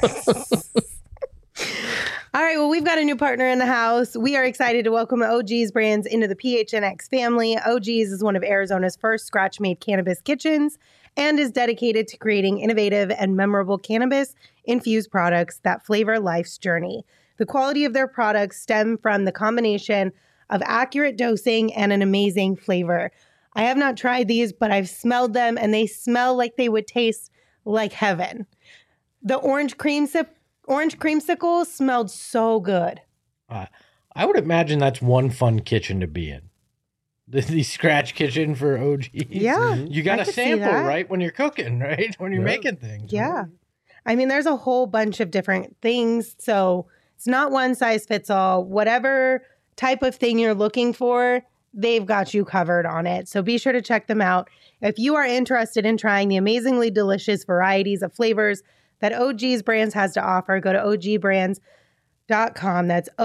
All right, well, we've got a new partner in the house. We are excited to welcome OG's Brands into the PHNX family. OG's is one of Arizona's first scratch-made cannabis kitchens and is dedicated to creating innovative and memorable cannabis-infused products that flavor life's journey. The quality of their products stem from the combination of accurate dosing and an amazing flavor. I have not tried these, but I've smelled them, and they smell like they would taste like heaven. The orange creamsicle smelled so good. I would imagine that's one fun kitchen to be in. The scratch kitchen for OGs. Yeah, You got I to could see sample, that. right? When you're cooking, right? When you're Yeah. making things. Yeah. I mean, there's a whole bunch of different things. So it's not one size fits all. Whatever type of thing you're looking for, they've got you covered on it. So be sure to check them out. If you are interested in trying the amazingly delicious varieties of flavors that OG's Brands has to offer, go to ogbrands.com. That's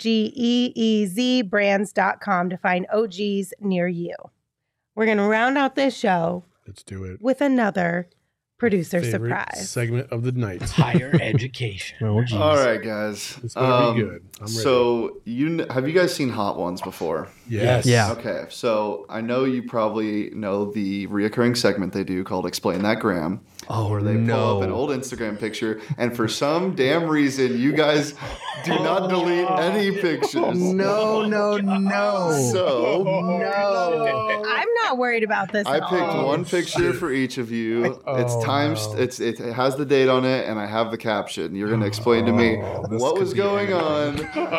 OGEEZ brands.com to find OG's near you. We're going to round out this show Let's do it. with another producer Favorite surprise. segment of the night. Higher education. Oh, geez. All right, guys. It's gonna be good. I'm ready. So have you guys seen Hot Ones before? Yes. Yeah. Okay, so I know you probably know the reoccurring segment they do called Explain That Graham, Oh, where they pull up an old Instagram picture, and for some damn reason, you guys do not delete any pictures. No. So I'm not worried about this. I at all. picked one picture for each of you. It's times. no. It has the date on it, and I have the caption. You're going to explain to me this what could was be going on,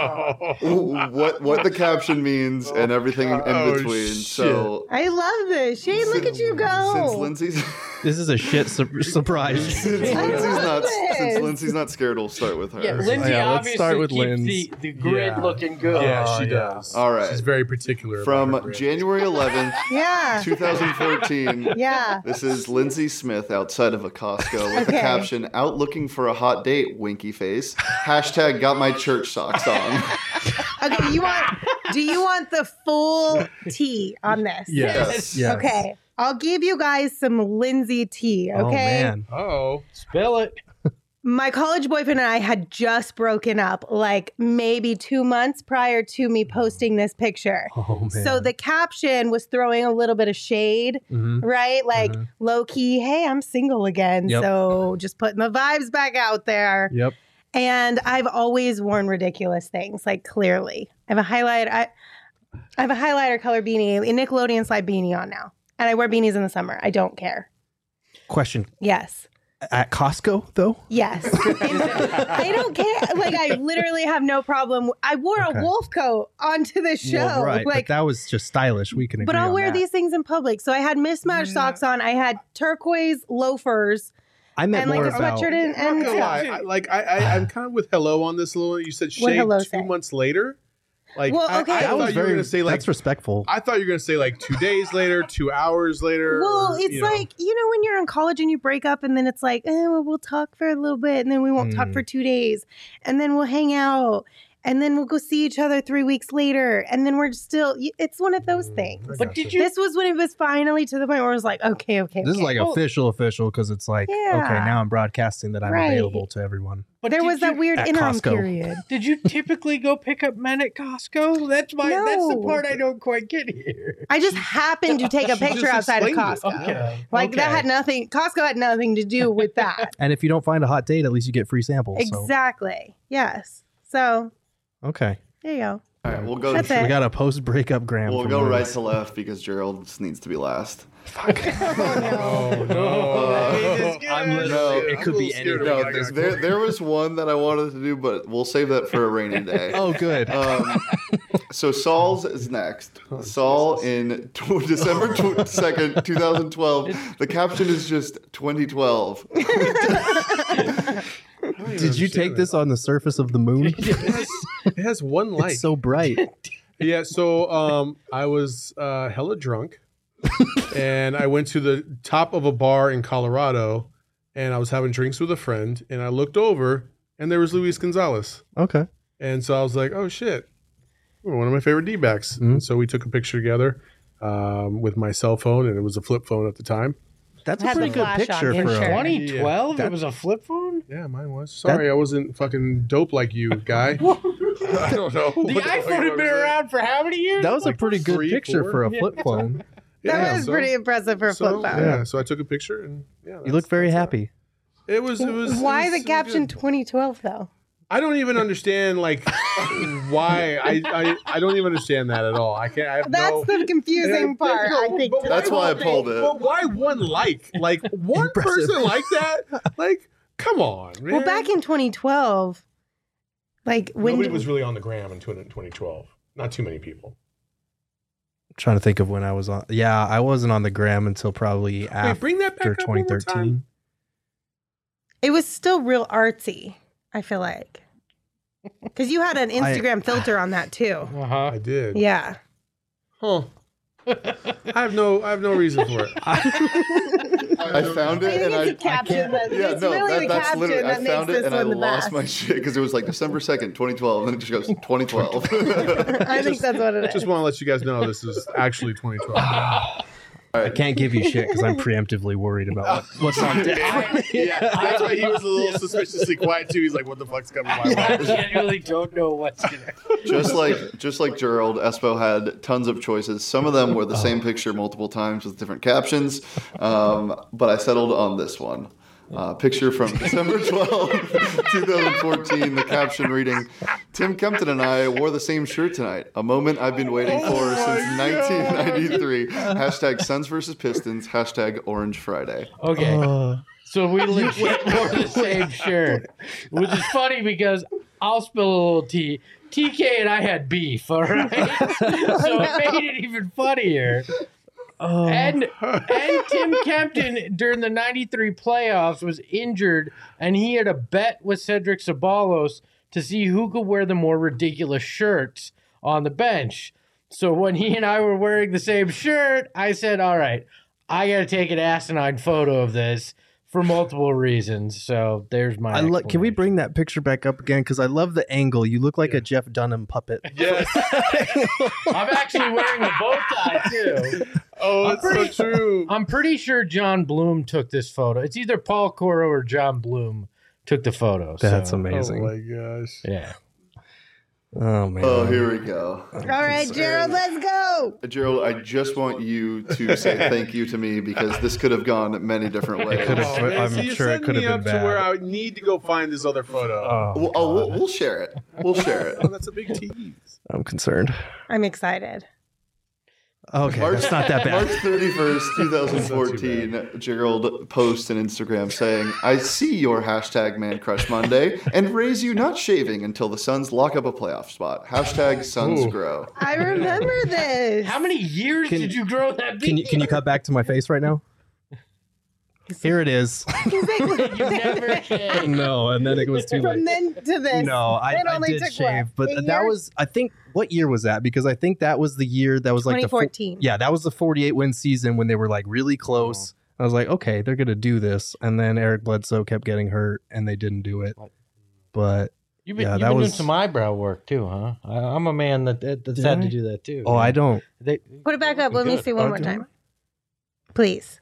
what the caption means, and everything in Oh, between. shit. So I love this. Shane, look at you since go. Lindsay's This is a shit surprise. this. Lindsay's not scared, we'll start with her. Yeah, Lindsay Yeah, let's obviously start with keeps Linz. the grid Yeah. looking good. Yeah, she yeah. does. All right. She's very particular. about her From brand. January 11th, Yeah. 2014. Yeah. This is Lindsay Smith outside of a Costco with the Okay. caption, "Out looking for a hot date, winky face. Hashtag got my church socks on." Okay, do you want the full tea on this? Yes. Yes. Okay. I'll give you guys some Lindsay tea, okay? Oh, man. Oh. Spill it. My college boyfriend and I had just broken up like maybe 2 months prior to me posting this picture. Oh, man. So the caption was throwing a little bit of shade, Mhm. right? Like Mhm. low key, hey, I'm single again. Yep. So just putting the vibes back out there. Yep. And I've always worn ridiculous things, like clearly. I have a highlighter color beanie, a Nickelodeon slide beanie on now. And I wear beanies in the summer. I don't care. Question. Yes. At Costco, though? Yes. I don't care. Like, I literally have no problem. I wore Okay. a wolf coat onto the show. Well, right. Like, but that was just stylish. We can agree but I'll on wear that. these things in public. So I had mismatched socks on. I had turquoise loafers I meant and like more a about... sweatshirt and I'm not gonna stuff. lie. I'm kind of with hello on this a little. You said What shade hello 2 say? months later. Like, Well, I okay. thought That was you were very... gonna say like that's respectful. I thought you were gonna say like 2 days later, 2 hours later. Well, or, it's you know. like, you know, when you're in college and you break up and then it's like, well, we'll talk for a little bit and then we won't talk for 2 days and then we'll hang out. and then we'll go see each other 3 weeks later, and then we're still. It's one of those things. But did you? This was when it was finally to the point where it was like, okay. This is like official because it's like, Yeah. okay, now I'm broadcasting that I'm Right. available to everyone. But there did was that you- weird at interim Costco. period. Did you typically go pick up men at Costco? That's the No. part I don't quite get here. I just happened to take a She picture just outside of explained it. Costco. Okay. Like that had nothing. Costco had nothing to do with that. And if you don't find a hot date, at least you get free samples. So. Exactly. Yes. So Okay. there you go. All right, we'll go. That's it. We got a post breakup gram. We'll from go Lewis. right to left because Gerald just needs to be last. Oh no! I'm literally, No, it could be anything. No, there was one that I wanted to do, but we'll save that for a rainy day. Oh, good. So Saul's is next. Saul in December 2nd, 2012. The caption is just 2012. Did you take this on the surface of the moon? It has one light. It's so bright. Yeah, so I was hella drunk, and I went to the top of a bar in Colorado, and I was having drinks with a friend, and I looked over, and there was Luis Gonzalez. Okay. And so I was like, oh, shit, one of my favorite D-backs. Mm-hmm. And so we took a picture together with my cell phone, and it was a flip phone at the time. That's a Had pretty the good flash on picture for for sure. a 2012. Yeah. It was a flip phone. Yeah, mine was. Sorry, I wasn't fucking dope like you, guy. I don't know. The iPhone had been around for how many years? That was a pretty good 3, picture 4? for a flip phone. That was pretty impressive for a flip phone. Yeah, so I took a picture, and yeah, You look very happy. It was. Why the caption 2012 though? I don't even understand like why. I don't even understand that at all. I can't. I have That's no, the confusing part. I think. But That's why I pulled it. But why one like? Like one Impressive. person like that? Like, come on, man. Well, back in 2012, like when Nobody was really on the gram in 2012. Not too many people. Trying to think of when I was on. Yeah, I wasn't on the gram until probably Wait, bring that back after up one more 2013. time. it was still real artsy. I feel like because you had an Instagram filter on that too. I did. Yeah. Huh. I have no reason for it. I found it and it's a caption. It's really the that's caption literally. I that found makes it this and I one the lost best. my shit because it was like December 2nd, 2012, and then it just goes 2012. I think that's what it is. Just want to let you guys know this is actually 2012. I can't give you shit because I'm preemptively worried about what's on deck. Yeah, that's why he was a little suspiciously quiet too. He's like, "What the fuck's coming my I way?" genuinely don't know what's gonna. just like Gerald, Espo had tons of choices. Some of them were the same picture multiple times with different captions, but I settled on this one. Picture from December 12, 2014, the caption reading, Tim Kempton and I wore the same shirt tonight, a moment I've been waiting for since 1993. Hashtag Suns versus Pistons, hashtag Orange Friday. Okay. So we legit wore the same shirt, which is funny because I'll spill a little tea. TK and I had beef, all right? So it made it even funnier. And Tim Kempton during the 93 playoffs was injured, and he had a bet with Cedric Ceballos to see who could wear the more ridiculous shirts on the bench. So when he and I were wearing the same shirt, I said, all right, I got to take an asinine photo of this for multiple reasons. So there's my Can we explanation. bring that picture back up again? Because I love the angle. You look like a Jeff Dunham puppet. Yes. I'm actually wearing a bow tie, too. Oh, it's so true. I'm pretty sure John Bloom took this photo. It's either Paul Coro or John Bloom took the photo. That's so, amazing. Oh my gosh. Yeah. Oh, man. Oh, here we go. All right, Gerald, let's go. Gerald, I just want you to say thank you to me because this could have gone many different ways. could have- Oh, man, I'm so you're sure it setting could have me been up bad. to where I need to go find this other photo. We'll share it. We'll share it. Oh, that's a big tease. I'm concerned. I'm excited. Okay, that's not that March bad. 31st, 2014, Gerald posts on Instagram saying, I see your hashtag Man Crush Monday and raise you not shaving until the Suns lock up a playoff spot. Hashtag Suns Ooh. grow. I remember this. How many years did you grow that beard? Can you cut back to my face right now? Here it is. You never shaved. No, and then it was too From late. then to this. No, I It only did took, shave, what, but 8 that years? was, I think, what year was that? Because I think that was the year that was like 2014. yeah, that was the 48 win season when they were like really close. I was like, okay, they're gonna do this, and then Eric Bledsoe kept getting hurt, and they didn't do it. But You've been, Yeah, you've that been doing was- some eyebrow work too, huh? I'm a man that's had I? to do that too. Oh, I don't. They, Put it back up. Let me Good. see one Oh, more do time. Please.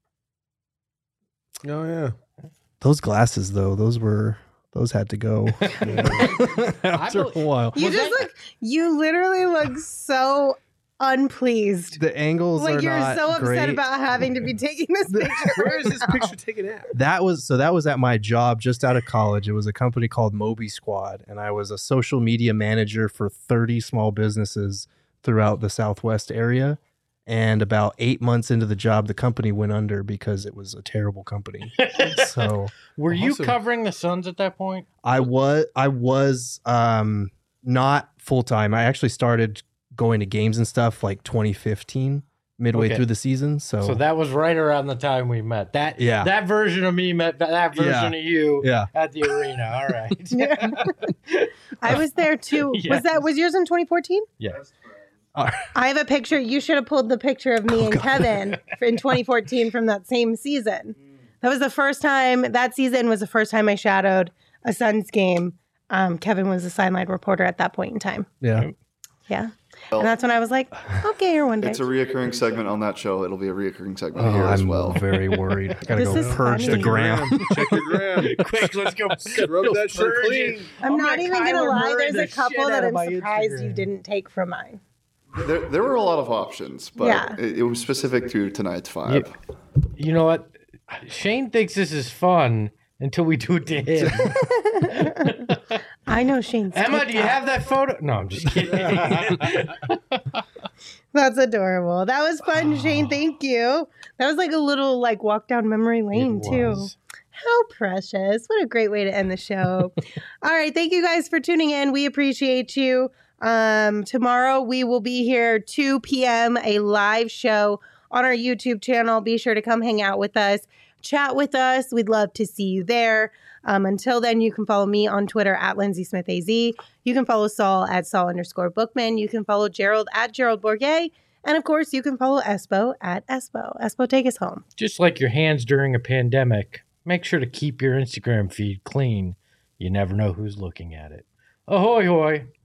Oh yeah. Those glasses though, those had to go after a while. You you literally look so unpleased. The angles Like are you're not so upset great. about having to be taking this picture. Where is this picture taken at? That was at my job just out of college. It was a company called Moby Squad, and I was a social media manager for 30 small businesses throughout the Southwest area. And about 8 months into the job, the company went under because it was a terrible company. So were you Awesome. covering the Suns at that point? I was not full time. I actually started going to games and stuff like 2015, midway Okay. through the season. So that was right around the time we met. That Yeah. that version of me met that version of you yeah. at the arena. All right. I was there too. Yes. Was yours in 2014? Yes. I have a picture. You should have pulled the picture of me and Kevin in 2014 from that same season. That was the first time. That season was the first time I shadowed a Suns game. Kevin was a sideline reporter at that point in time. Yeah. Yeah. Well, And that's when I was like, okay, here one day. it's a reoccurring segment on that show. It'll be a reoccurring segment Oh, here as I'm well. very worried. I gotta This go is purge funny. the gram. Check your gram. Quick, let's go. Rub that shit Purge clean. it. I'm not gonna even going to Kyler lie. Murray There's the a couple shit out that of I'm my surprised you Instagram. didn't take from mine. There were a lot of options, but Yeah. it was specific to tonight's five. You know what? Shane thinks this is fun until we do it to him. I know Shane's Emma, do you TikTok. have that photo? No, I'm just kidding. That's adorable. That was fun, Shane. Thank you. That was like a little walk down memory lane It too. was. How precious. What a great way to end the show. All right. Thank you guys for tuning in. We appreciate you. Tomorrow we will be here 2 p.m. a live show on our YouTube channel. Be sure to come hang out with us, chat with us. We'd love to see you there. Until then, you can follow me on Twitter at Lindsay Smith AZ. You can follow Saul at Saul_Bookman. You can follow Gerald at Gerald Bourget. And of course, you can follow Espo at Espo. Espo, take us home. Just like your hands during a pandemic, make sure to keep your Instagram feed clean. You never know who's looking at it. Ahoy, hoy.